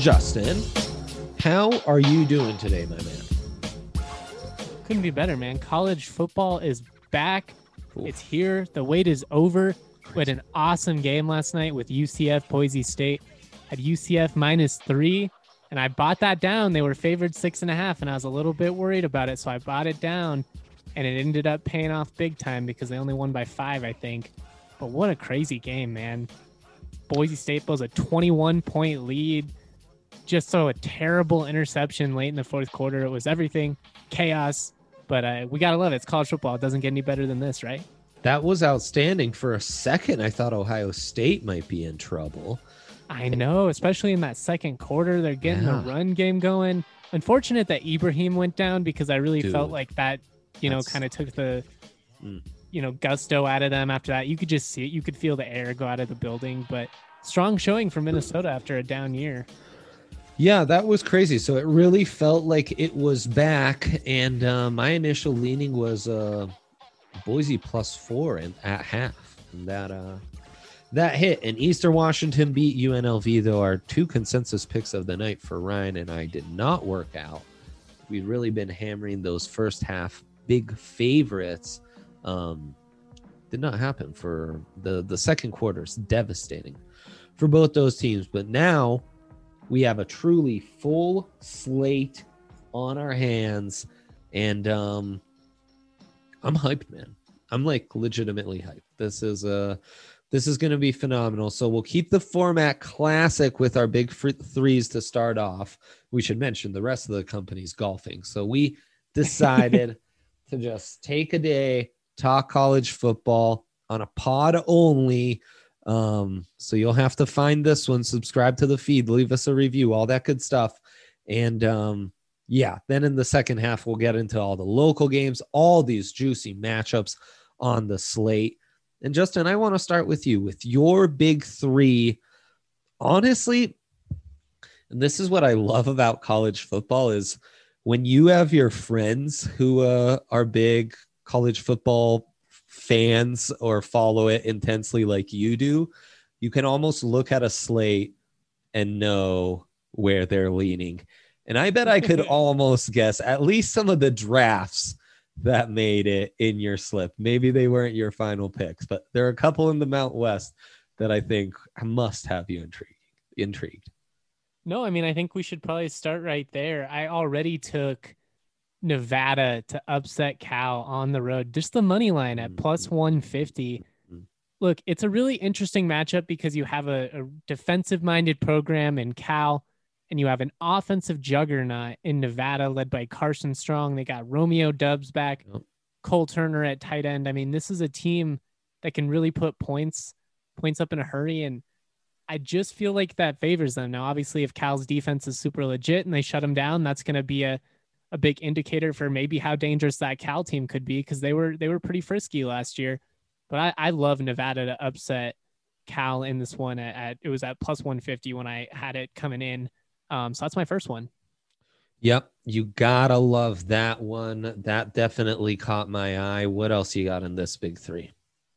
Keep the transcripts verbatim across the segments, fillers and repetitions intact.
Justin, how are you doing today, my man? Couldn't be better, man. College football is back. Oof. It's here. The wait is over. We had an awesome game last night with U C F Boise State. Had U C F minus three, and I bought that down. They were favored six and a half, and I was a little bit worried about it, so I bought it down, and it ended up paying off big time because they only won by five, I think. But what a crazy game, man. Boise State blows a twenty-one point lead. Just so a terrible interception late in the fourth quarter. It was everything. Chaos. But uh, we got to love it. It's college football. It doesn't get any better than this, right? That was outstanding. For a second, I thought Ohio State might be in trouble. I know, especially in that second quarter. They're getting yeah. the run game going. Unfortunate that Ibrahim went down because I really Dude, felt like that, you know, kind of took the, mm. you know, gusto out of them after that. You could just see it. You could feel the air go out of the building. But strong showing for Minnesota after a down year. Yeah, that was crazy. So it really felt like it was back. And uh, my initial leaning was uh, Boise plus four and at half. And that uh, that hit. And Eastern Washington beat U N L V, though our two consensus picks of the night for Ryan and I did not work out. We've really been hammering those first half big favorites. Um, did not happen for the, the second quarter. It's devastating for both those teams. But now we have a truly full slate on our hands, and um, I'm hyped, man. I'm like legitimately hyped. This is uh, this is going to be phenomenal. So we'll keep the format classic with our big fr- threes to start off. We should mention the rest of the company's golfing. So we decided to just take a day, talk college football on a pod only. Um, so you'll have to find this one, subscribe to the feed, leave us a review, all that good stuff. And, um, yeah, then in the second half, we'll get into all the local games, all these juicy matchups on the slate. And Justin, I want to start with you with your big three. Honestly, and this is what I love about college football is when you have your friends who uh, are big college football fans or follow it intensely like you do, you can almost look at a slate and know where they're leaning. And I bet I could almost guess at least some of the drafts that made it in your slip. Maybe they weren't your final picks, but there are a couple in the Mount West that I think must have you intrigued. intrigued. No, I mean, I think we should probably start right there. I already took Nevada to upset Cal on the road. Just the money line at plus one fifty. Look, it's a really interesting matchup because you have a, a defensive-minded program in Cal, and you have an offensive juggernaut in Nevada led by Carson Strong. They got Romeo Dubs back, yep. Cole Turner at tight end. I mean, this is a team that can really put points points up in a hurry, and I just feel like that favors them. Now, obviously, if Cal's defense is super legit and they shut them down, that's going to be a a big indicator for maybe how dangerous that Cal team could be because they were they were pretty frisky last year. But I, I love Nevada to upset Cal in this one at, at it was at plus one fifty when I had it coming in. Um, so that's my first one. Yep, you gotta love that one. That definitely caught my eye. What else you got in this big three?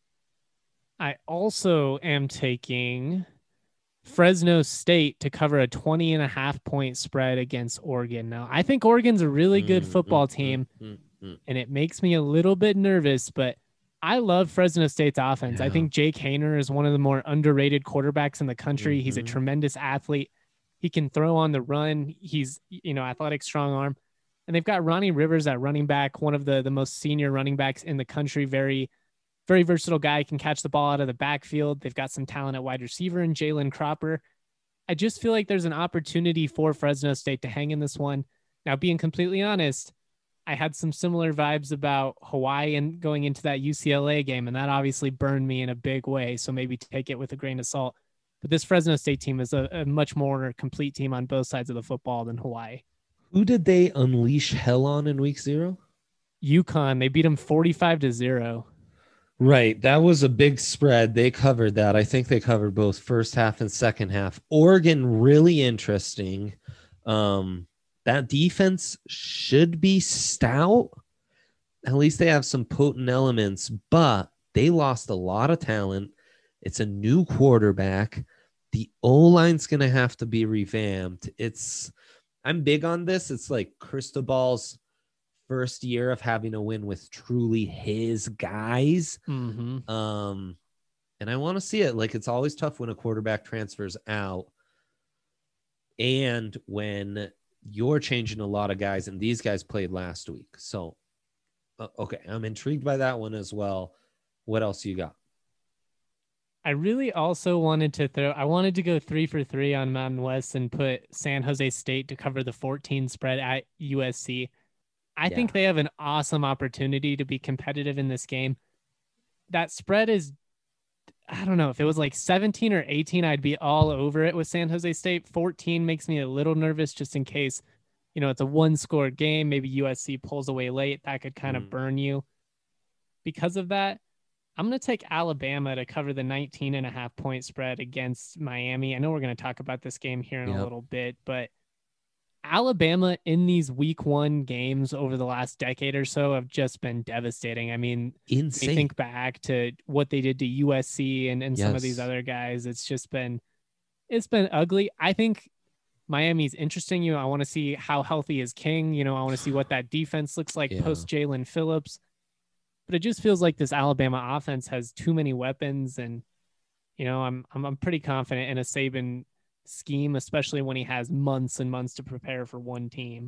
I also am taking Fresno State to cover a twenty and a half point spread against Oregon. Now, I think Oregon's a really good football team, mm, mm, mm, and it makes me a little bit nervous, but I love Fresno State's offense. Yeah. I think Jake Haener is one of the more underrated quarterbacks in the country. Mm-hmm. He's a tremendous athlete. He can throw on the run. He's, you know, athletic, strong arm. And they've got Ronnie Rivers at running back, one of the, the most senior running backs in the country. Very, very versatile guy, can catch the ball out of the backfield. They've got some talent at wide receiver and Jalen Cropper. I just feel like there's an opportunity for Fresno State to hang in this one. Now, being completely honest, I had some similar vibes about Hawaii and going into that U C L A game, and that obviously burned me in a big way. So maybe take it with a grain of salt. But this Fresno State team is a, a much more complete team on both sides of the football than Hawaii. Who did they unleash hell on in week zero? UConn. They beat them forty-five to zero. Right. That was a big spread. They covered that. I think they covered both first half and second half. Oregon, really interesting. Um, that defense should be stout. At least they have some potent elements, but they lost a lot of talent. It's a new quarterback. The O-line's going to have to be revamped. It's, I'm big on this. It's like Cristobal's first year of having a win with truly his guys. Mm-hmm. Um, and I want to see it. Like, it's always tough when a quarterback transfers out and when you're changing a lot of guys, and these guys played last week. So, uh, okay, I'm intrigued by that one as well. What else you got? I really also wanted to throw, I wanted to go three for three on Mountain West and put San Jose State to cover the fourteen spread at U S C. I Yeah. think they have an awesome opportunity to be competitive in this game. That spread is, I don't know, if it was like seventeen or eighteen, I'd be all over it with San Jose State. fourteen makes me a little nervous just in case, you know, it's a one score game. Maybe U S C pulls away late. That could kind of Mm. burn you. Because of that, I'm going to take Alabama to cover the nineteen and a half point spread against Miami. I know we're going to talk about this game here in Yep. a little bit, but Alabama in these week one games over the last decade or so have just been devastating. I mean, Insane. you think back to what they did to U S C and, and some of these Yes. other guys. It's just been, it's been ugly. I think Miami's interesting. You know, I want to see how healthy is King. You know, I want to see what that defense looks like Yeah. post Jalen Phillips. But it just feels like this Alabama offense has too many weapons, and you know, I'm I'm, I'm pretty confident in a Saban scheme, especially when he has months and months to prepare for one team.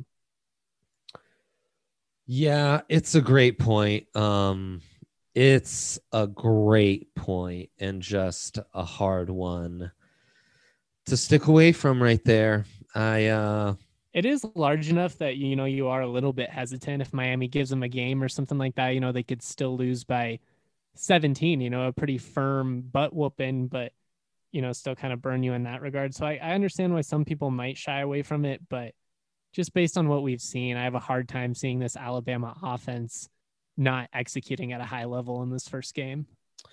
Yeah, it's a great point. Um, it's a great point and just a hard one to stick away from right there. I uh It is large enough that, you know, you are a little bit hesitant if Miami gives them a game or something like that. You know, they could still lose by seventeen, you know, a pretty firm butt whooping, but, you know, still kind of burn you in that regard. So I, I understand why some people might shy away from it, but just based on what we've seen, I have a hard time seeing this Alabama offense not executing at a high level in this first game.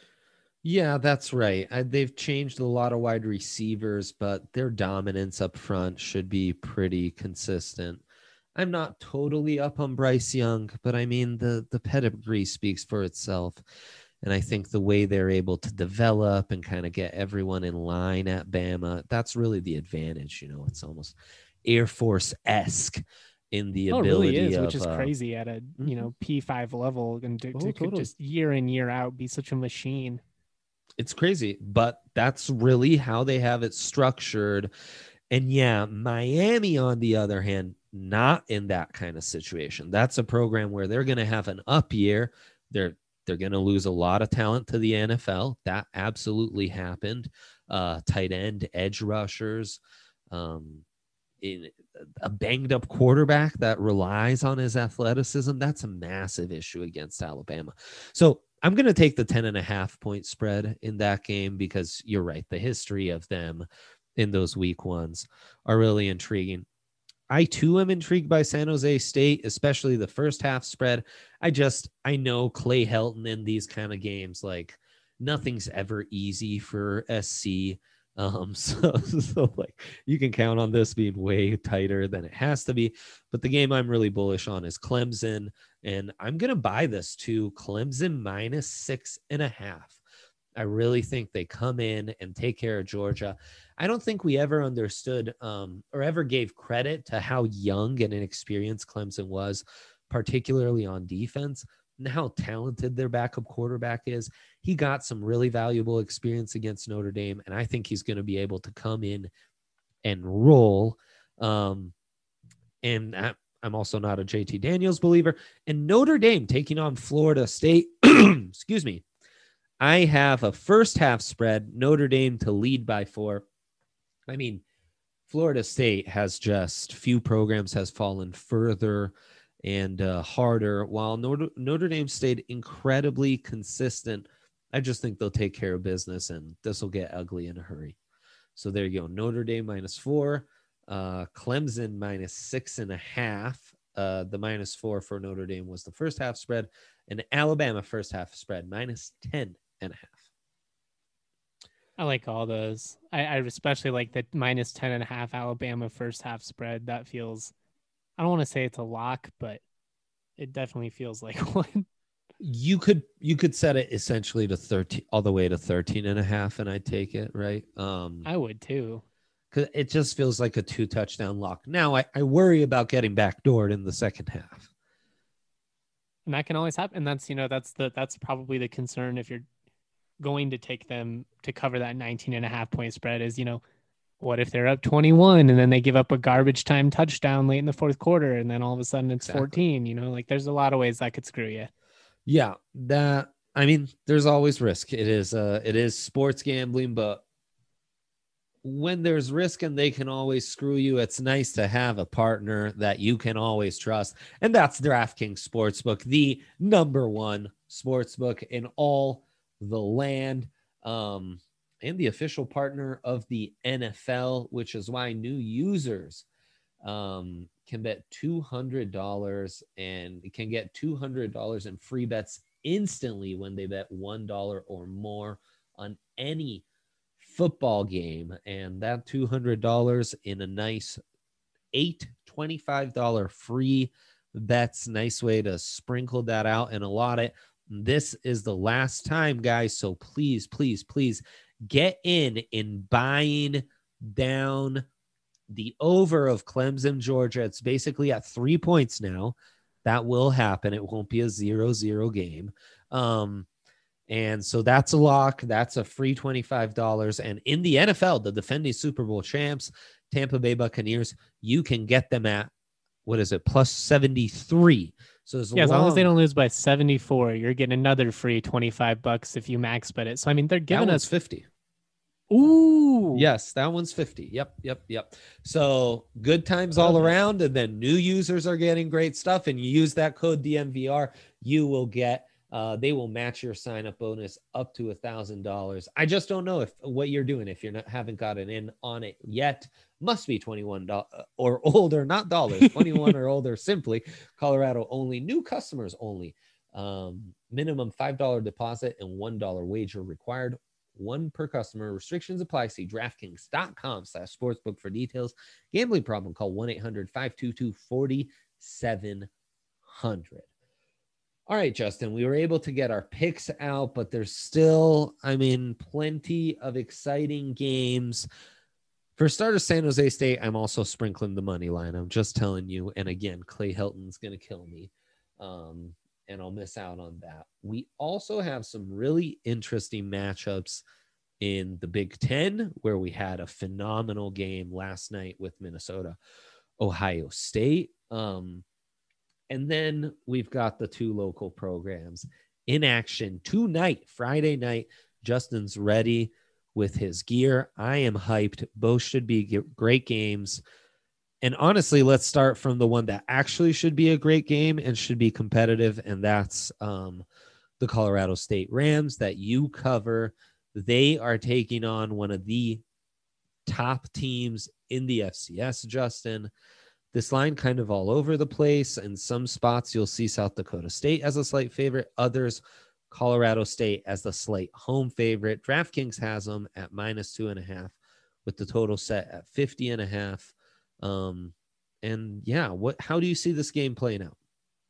Yeah, that's right. I, they've changed a lot of wide receivers, but their dominance up front should be pretty consistent. I'm not totally up on Bryce Young, but I mean, the, the pedigree speaks for itself. And I think the way they're able to develop and kind of get everyone in line at Bama, that's really the advantage. You know, it's almost Air Force-esque in the Oh, it ability really is, of, which is uh, crazy at a, mm-hmm. you know, P five level and to, Oh, to totally. just year in, year out be such a machine. It's crazy, but that's really how they have it structured. And yeah, Miami, on the other hand, not in that kind of situation. That's a program where they're going to have an up year. They're they're going to lose a lot of talent to the N F L. That absolutely happened. Uh, tight end, edge rushers, um, in a banged up quarterback that relies on his athleticism. That's a massive issue against Alabama. So I'm going to take the ten and a half point spread in that game because you're right. The history of them in those week ones are really intriguing. I too am intrigued by San Jose State, especially the first half spread. I just, I know Clay Helton in these kind of games, like nothing's ever easy for S C. Um, so, so like you can count on this being way tighter than it has to be. But the game I'm really bullish on is Clemson, and I'm going to buy this to Clemson minus six and a half. I really think they come in and take care of Georgia. I don't think we ever understood um, or ever gave credit to how young and inexperienced Clemson was, particularly on defense, and how talented their backup quarterback is. He got some really valuable experience against Notre Dame, and I think he's going to be able to come in and roll. Um, and I, I'm also not a J T Daniels believer. And Notre Dame taking on Florida State, excuse me, I have a first half spread, Notre Dame to lead by four. I mean, Florida State has just few programs has fallen further and uh, harder, while Notre, Notre Dame stayed incredibly consistent. I just think they'll take care of business, and this will get ugly in a hurry. So there you go. Notre Dame minus four, uh, Clemson minus six and a half. Uh, the minus four for Notre Dame was the first half spread, and Alabama first half spread minus ten and a half. I like all those. I, I especially like the minus ten and a half Alabama first half spread. That feels, I don't want to say it's a lock, but it definitely feels like one. You could you could set it essentially to thirteen, all the way to thirteen and a half, and I'd take it, right? Um, I would too. Because it just feels like a two touchdown lock. Now I, I worry about getting backdoored in the second half. And that can always happen. And that's, you know, that's the that's probably the concern if you're going to take them to cover that nineteen and a half point spread is, you know, what if they're up twenty-one and then they give up a garbage time touchdown late in the fourth quarter and then all of a sudden it's exactly. fourteen, you know, like there's a lot of ways that could screw you. Yeah, that, I mean, there's always risk. It is uh it is sports gambling, but when there's risk and they can always screw you, it's nice to have a partner that you can always trust. And that's DraftKings Sportsbook, the number one sportsbook in all the land, um, and the official partner of the N F L, which is why new users um, can bet two hundred dollars and can get two hundred dollars in free bets instantly when they bet one dollar or more on any football game. And that two hundred dollars in a nice eight twenty-five dollars free bets. Nice way to sprinkle that out and allot it. This is the last time, guys. So please, please, please get in in buying down the over of Clemson, Georgia. It's basically at three points now. That will happen. It won't be a zero zero game. Um, And so that's a lock. That's a free twenty-five dollars. And in the N F L, the defending Super Bowl champs, Tampa Bay Buccaneers, you can get them at, what is it, plus seventy-three. So as, yeah, long, as long as they don't lose by seventy-four, you're getting another free twenty-five bucks if you max bet it. So, I mean, they're giving that us fifty. Ooh. Yes, that one's fifty. Yep, yep, yep. So good times all Okay. around. And then new users are getting great stuff. And you use that code D M V R, you will get Uh, they will match your sign-up bonus up to a thousand dollars. I just don't know if what you're doing if you're not haven't gotten in on it yet. Must be twenty-one or older, not dollars. twenty-one or older. Simply Colorado only. New customers only. Um, minimum five dollars deposit and one dollar wager required. One per customer. Restrictions apply. See DraftKings.com slash sportsbook for details. Gambling problem? Call one eight hundred five two two four seven zero zero. All right, Justin, we were able to get our picks out, but there's still, I mean, plenty of exciting games. For starters, San Jose State, I'm also sprinkling the money line. I'm just telling you. And again, Clay Helton's going to kill me, um, and I'll miss out on that. We also have some really interesting matchups in the Big Ten, where we had a phenomenal game last night with Minnesota, Ohio State. Um, And then we've got the two local programs in action tonight, Friday night. Justin's ready with his gear. I am hyped. Both should be great games. And honestly, let's start from the one that actually should be a great game and should be competitive. And that's um, the Colorado State Rams that you cover. They are taking on one of the top teams in the F C S, Justin. This line kind of all over the place. In some spots, you'll see South Dakota State as a slight favorite. Others, Colorado State as the slight home favorite. DraftKings has them at minus two and a half with the total set at fifty and a half. Um, and yeah, what, how do you see this game playing out?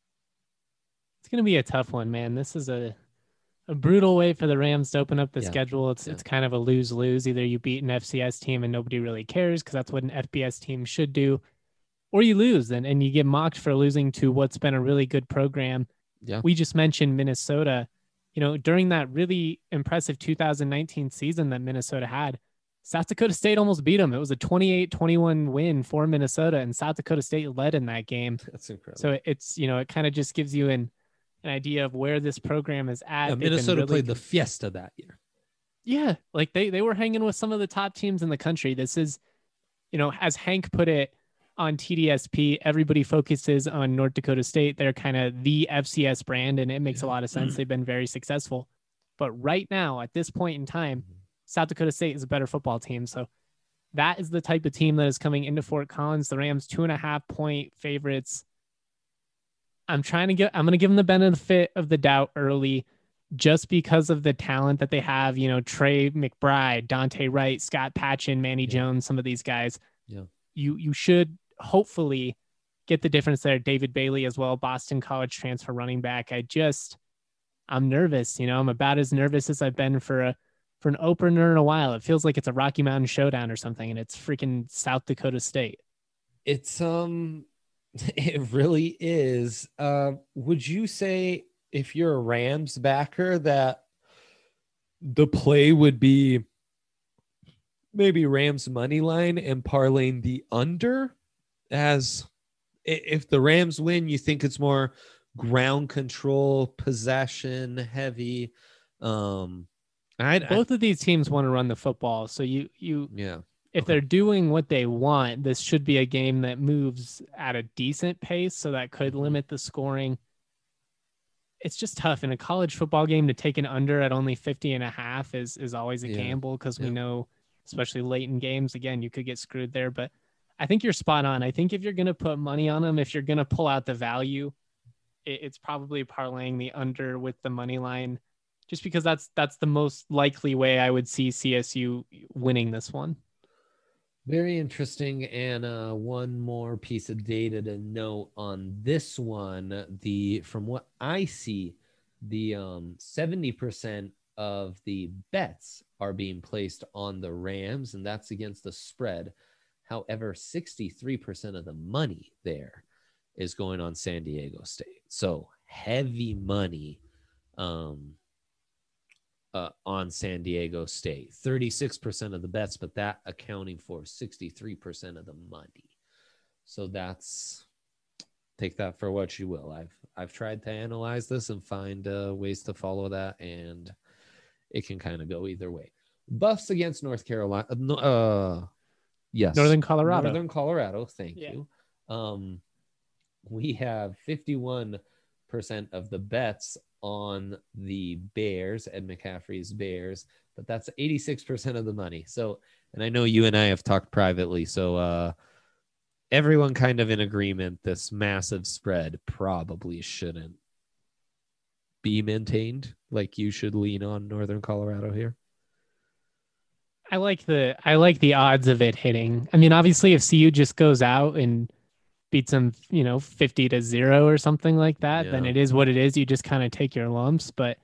It's going to be a tough one, man. This is a, a brutal way for the Rams to open up the Yeah. schedule. It's Yeah. it's kind of a lose-lose. Either you beat an F C S team and nobody really cares because that's what an F B S team should do, or you lose and, and you get mocked for losing to what's been a really good program. Yeah. We just mentioned Minnesota. You know, during that really impressive two thousand nineteen season that Minnesota had, South Dakota State almost beat them. It was a twenty-eight twenty-one win for Minnesota, and South Dakota State led in that game. That's incredible. So it's, you know, it kind of just gives you an, an idea of where this program is at. Yeah, They've been Minnesota really played the Fiesta that year. Yeah, like they they were hanging with some of the top teams in the country. This is, you know, as Hank put it on T D S P, everybody focuses on North Dakota State. They're kind of the F C S brand, and it makes a lot of sense. They've been very successful. But right now, at this point in time, South Dakota State is a better football team. So that is the type of team that is coming into Fort Collins. The Rams, two and a half point favorites. I'm trying to get, I'm going to give them the benefit of the doubt early just because of the talent that they have. You know, Trey McBride, Dante Wright, Scott Patchin, Manny Yeah. Jones, some of these guys. Yeah. You, you should hopefully get the difference there. David Bailey as well, Boston College transfer running back. I just, I'm nervous. You know, I'm about as nervous as I've been for a for an opener in a while. It feels like it's a Rocky Mountain Showdown or something, and it's freaking South Dakota State. It's um, it really is. Uh, would you say if you're a Rams backer that the play would be maybe Rams money line and parlaying the under? As if the Rams win, you think it's more ground control, possession heavy. Um, I both of these teams want to run the football, so you you yeah. If Okay. they're doing what they want, this should be a game that moves at a decent pace, so that could Mm-hmm. limit the scoring. It's just tough in a college football game to take an under at only fifty and a half is is always a Yeah. gamble, because we Yeah. know, especially late in games, again, you could get screwed there. But I think you're spot on. I think if you're going to put money on them, if you're going to pull out the value, it, it's probably parlaying the under with the money line, just because that's that's the most likely way I would see C S U winning this one. Very interesting. And uh, one more piece of data to note on this one. The from what I see, the um, seventy percent of the bets are being placed on the Rams, and that's against the spread. However, sixty-three percent of the money there is going on San Diego State. So heavy money um, uh, on San Diego State. thirty-six percent of the bets, but that accounting for sixty-three percent of the money. So that's, take that for what you will. I've I've tried to analyze this and find uh, ways to follow that, and it can kind of go either way. Buffs against North Carolina. Uh, yes. Northern Colorado. Northern Colorado. Thank Yeah. you. Um, we have fifty-one percent of the bets on the Bears, Ed McCaffrey's Bears, but that's eighty-six percent of the money. So, and I know you and I have talked privately, so uh, everyone kind of in agreement, this massive spread probably shouldn't be maintained. Like, you should lean on Northern Colorado here. I like the I like the odds of it hitting. I mean, obviously, if C U just goes out and beats them, you know, fifty to zero or something like that, Yeah. then it is what it is. You just kind of take your lumps. But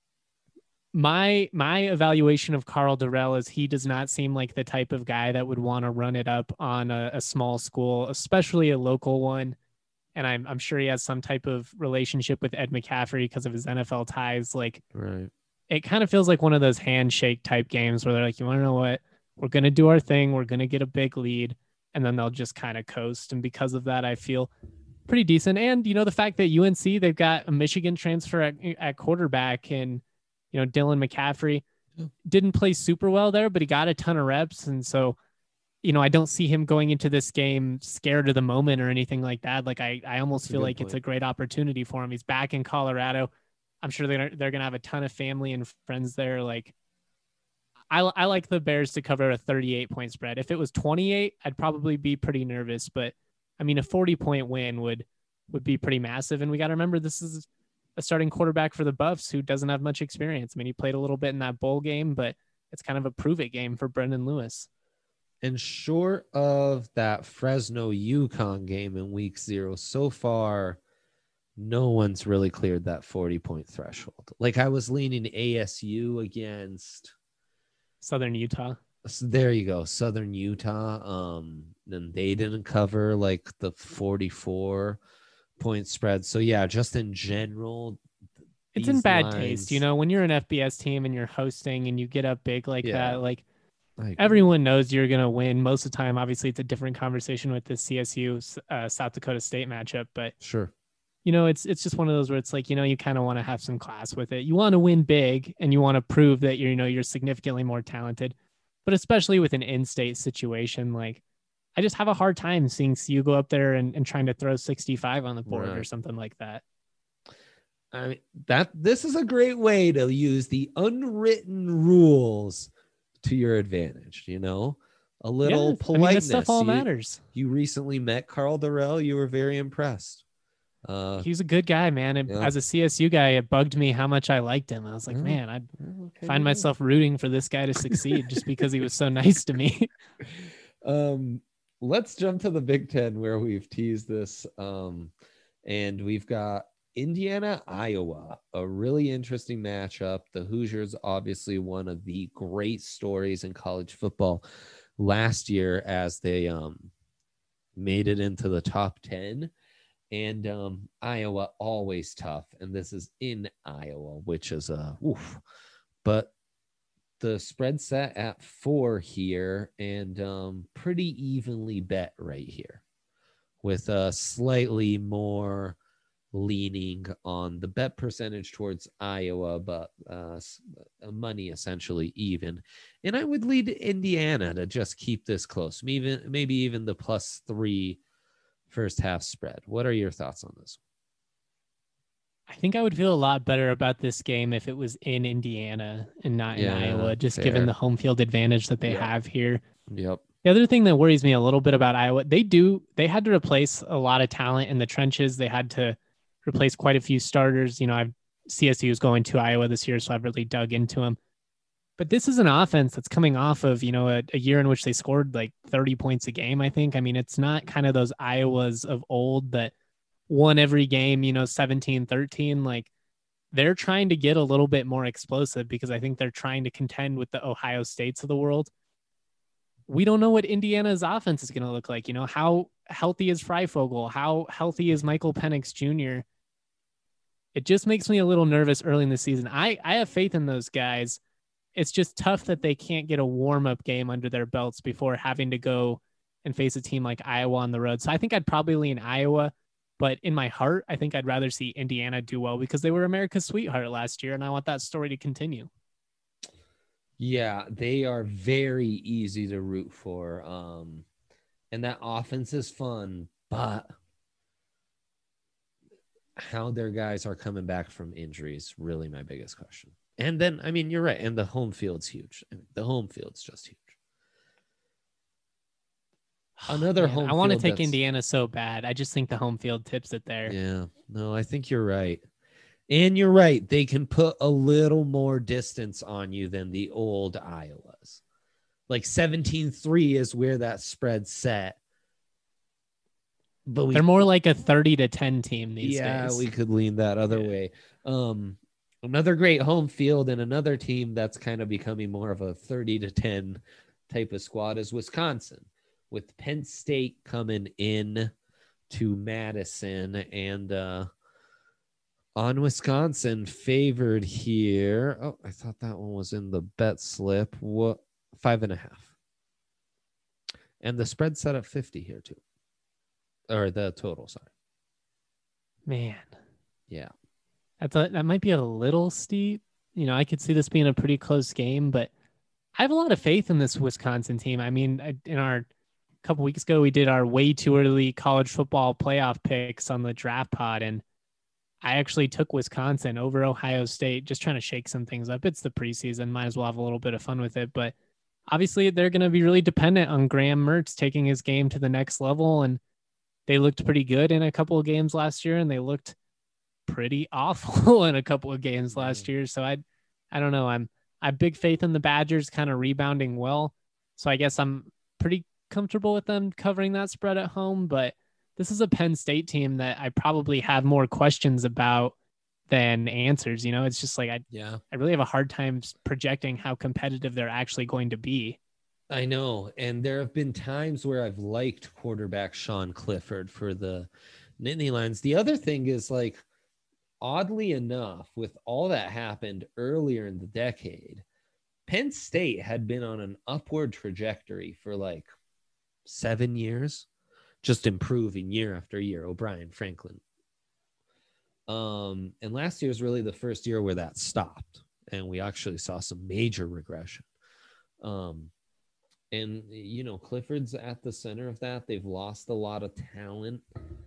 my my evaluation of Carl Durrell is he does not seem like the type of guy that would want to run it up on a, a small school, especially a local one. And I'm I'm sure he has some type of relationship with Ed McCaffrey because of his N F L ties. Like, Right. it kind of feels like one of those handshake type games where they're like, you want to know what? We're going to do our thing. We're going to get a big lead. And then they'll just kind of coast. And because of that, I feel pretty decent. And, you know, the fact that U N C, they've got a Michigan transfer at, at quarterback, and, you know, Dylan McCaffrey didn't play super well there, but he got a ton of reps. And so, you know, I don't see him going into this game scared of the moment or anything like that. Like, I, I almost That's a feel good like point. it's a great opportunity for him. He's back in Colorado. I'm sure they're, they're going to have a ton of family and friends there. Like, I, I like the Bears to cover a thirty-eight point spread. If it was twenty-eight, I'd probably be pretty nervous, but I mean, a forty point win would, would be pretty massive. And we got to remember, this is a starting quarterback for the Buffs who doesn't have much experience. I mean, he played a little bit in that bowl game, but it's kind of a prove it game for Brendan Lewis. And short of that Fresno UConn game in week zero, so far, no one's really cleared that forty point threshold. Like, I was leaning A S U against Southern Utah. So there you go, Southern Utah. Um, then they didn't cover like the forty-four point spread. So yeah, just in general, it's in these bad lines- taste. You know, when you're an F B S team and you're hosting and you get up big like Yeah. that, like, I agree. everyone knows you're going to win most of the time. Obviously, it's a different conversation with the C S U uh, South Dakota State matchup, but Sure. you know, it's it's just one of those where it's like, you know, you kind of want to have some class with it. You want to win big and you want to prove that you're, you know, you're significantly more talented, but especially with an in-state situation, like, I just have a hard time seeing C U go up there and, and trying to throw sixty-five on the board Right. or something like that. I mean, that this is a great way to use the unwritten rules to your advantage. You know, a little Yeah, I politeness. mean, this stuff all you, matters. you recently met Carl Durrell. You were very impressed. Uh, He was a good guy, man. And Yeah. as a C S U guy, it bugged me how much I liked him. I was like, Yeah. man, I'd okay. find myself rooting for this guy to succeed just because he was so nice to me. Um, let's jump to the Big Ten, where we've teased this. Um, and we've got Indiana, Iowa, a really interesting matchup. The Hoosiers, obviously one of the great stories in college football last year as they um, made it into the top ten. And um, Iowa, always tough. And this is in Iowa, which is a oof. But the spread set at four here and um, pretty evenly bet right here with a slightly more leaning on the bet percentage towards Iowa, but uh, money essentially even. And I would lead Indiana to just keep this close, maybe, maybe even the plus three first half spread. What are your thoughts on this? I think I would feel a lot better about this game if it was in Indiana and not Yeah, in Iowa, just fair. given the home field advantage that they Yep. have here. Yep. The other thing that worries me a little bit about Iowa, they do, they had to replace a lot of talent in the trenches. They had to replace quite a few starters. You know, I've C S U is going to Iowa this year, so I've really dug into them. But this is an offense that's coming off of, you know, a, a year in which they scored like thirty points a game, I think. I mean, it's not kind of those Iowas of old that won every game, you know, seventeen thirteen. Like, they're trying to get a little bit more explosive because I think they're trying to contend with the Ohio States of the world. We don't know what Indiana's offense is going to look like. You know, how healthy is Freifogel? How healthy is Michael Penix Junior? It just makes me a little nervous early in the season. I, I have faith in those guys. It's just tough that they can't get a warm-up game under their belts before having to go and face a team like Iowa on the road. So I think I'd probably lean Iowa, but in my heart, I think I'd rather see Indiana do well because they were America's sweetheart last year, and I want that story to continue. Yeah, they are very easy to root for. Um, and that offense is fun, but how their guys are coming back from injuries, really my biggest question. And then, I mean, you're right. And the home field's huge. I mean, the home field's just huge. Another Man, home I want to field take that's- Indiana so bad. I just think the home field tips it there. Yeah, no, I think you're right. And you're right. They can put a little more distance on you than the old Iowas. Like seventeen three is where that spread's set. But we, They're more like a thirty to ten team these yeah, days. we could lean that other Yeah. way. Um, another great home field and another team that's kind of becoming more of a thirty to ten type of squad is Wisconsin, with Penn State coming in to Madison and uh, on Wisconsin favored here. Oh, I thought that one was in the bet slip. What? Five and a half. And the spread set at fifty here too. Or the total, sorry. Man. Yeah. That's a, that might be a little steep. You know, I could see this being a pretty close game, but I have a lot of faith in this Wisconsin team. I mean, I, in our couple weeks ago, we did our way too early college football playoff picks on the draft pod, and I actually took Wisconsin over Ohio State, just trying to shake some things up. It's the preseason, might as well have a little bit of fun with it. But obviously, they're going to be really dependent on Graham Mertz taking his game to the next level, and they looked pretty good in a couple of games last year, and they looked pretty awful in a couple of games last year. So I, I don't know. I'm I have big faith in the Badgers kind of rebounding well. So I guess I'm pretty comfortable with them covering that spread at home. But this is a Penn State team that I probably have more questions about than answers. You know, it's just like I Yeah. I really have a hard time projecting how competitive they're actually going to be. I know. And there have been times where I've liked quarterback Sean Clifford for the Nittany Lions. The other thing is, like, oddly enough, with all that happened earlier in the decade, Penn State had been on an upward trajectory for like seven years, just improving year after year. O'Brien, Franklin. Um, and last year was really the first year where that stopped, and we actually saw some major regression. Um, And, you know, Clifford's at the center of that. They've lost a lot of talent.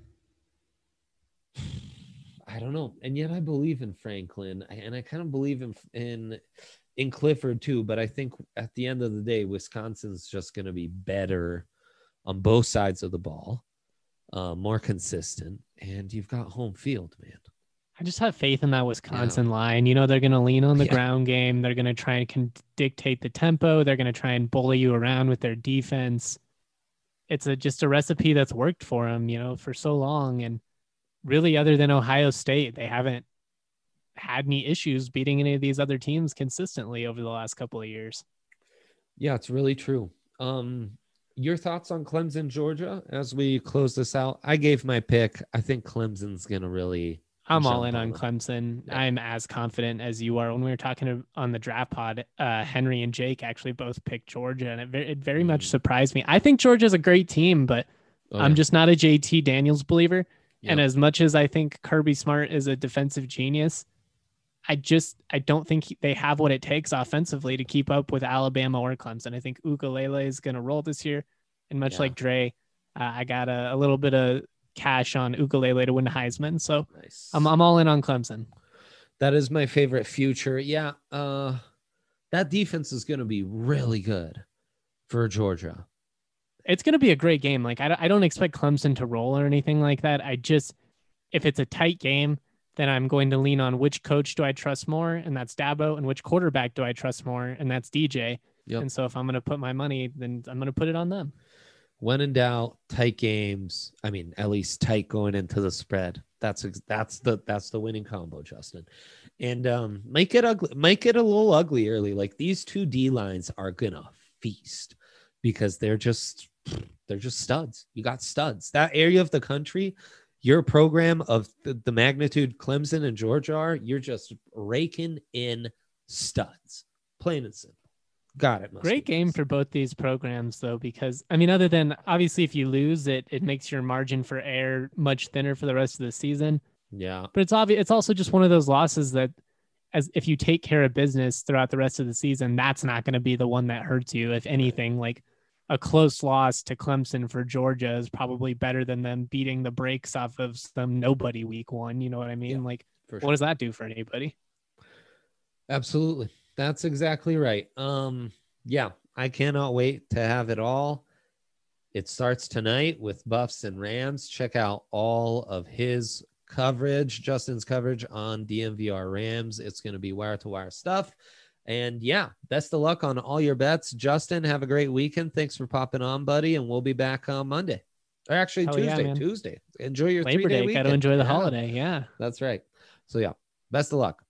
I don't know. And yet I believe in Franklin. And I kind of believe in in, in Clifford, too. But I think at the end of the day, Wisconsin's just going to be better on both sides of the ball, uh, more consistent. And you've got home field, man. I just have faith in that Wisconsin yeah. line. You know, they're going to lean on the yeah. ground game. They're going to try and con- dictate the tempo. They're going to try and bully you around with their defense. It's a just a recipe that's worked for them, you know, for so long. And really, other than Ohio State, they haven't had any issues beating any of these other teams consistently over the last couple of years. Yeah, it's really true. Um, your thoughts on Clemson, Georgia, as we close this out? I gave my pick. I think Clemson's going to really. I'm all jump in on them. Clemson. Yeah. I'm as confident as you are. When we were talking on the draft pod, uh, Henry and Jake actually both picked Georgia, and it very, it very Mm. much surprised me. I think Georgia's a great team, but Oh, I'm yeah. just not a J T Daniels believer. Yep. And as much as I think Kirby Smart is a defensive genius, I just I don't think he- they have what it takes offensively to keep up with Alabama or Clemson. I think Ukulele is going to roll this year, and much Yeah. like Dre, uh, I got a, a little bit of cash on Ukulele to win the Heisman, so Nice. I'm I'm all in on Clemson. That is my favorite future. Yeah, uh, that defense is going to be really good for Georgia. It's going to be a great game. Like I don't, I don't expect Clemson to roll or anything like that. I just if it's a tight game, then I'm going to lean on which coach do I trust more, and that's Dabo, and which quarterback do I trust more, and that's D J. Yep. And so if I'm going to put my money, then I'm going to put it on them. When in doubt, tight games. I mean, at least tight going into the spread. That's that's the that's the winning combo, Justin. And um, make it ugly, make it a little ugly early. Like these two D lines are gonna feast because they're just they're just studs. You got studs. That area of the country, your program of the, the magnitude Clemson and Georgia are, you're just raking in studs. Plain and simple. Got it. Great game for both these programs, though, because, I mean, other than obviously if you lose, it it makes your margin for error much thinner for the rest of the season. Yeah. But it's obvious. It's also just one of those losses that, as if you take care of business throughout the rest of the season, that's not going to be the one that hurts you. If anything, like a close loss to Clemson for Georgia is probably better than them beating the brakes off of some nobody week one. You know what I mean? Yeah, like, for what sure. does that do for anybody? Absolutely. That's exactly right. Um, yeah, I cannot wait to have it all. It starts tonight with Buffs and Rams. Check out all of his coverage, Justin's coverage on D M V R Rams. It's going to be wire to wire stuff. And yeah, best of luck on all your bets. Justin, have a great weekend. Thanks for popping on, buddy. And we'll be back on Monday. Or actually Hell Tuesday, yeah, Tuesday. Enjoy your Labor three-day Day. weekend. Got to enjoy the Yeah, holiday. Yeah. that's right. So yeah, best of luck.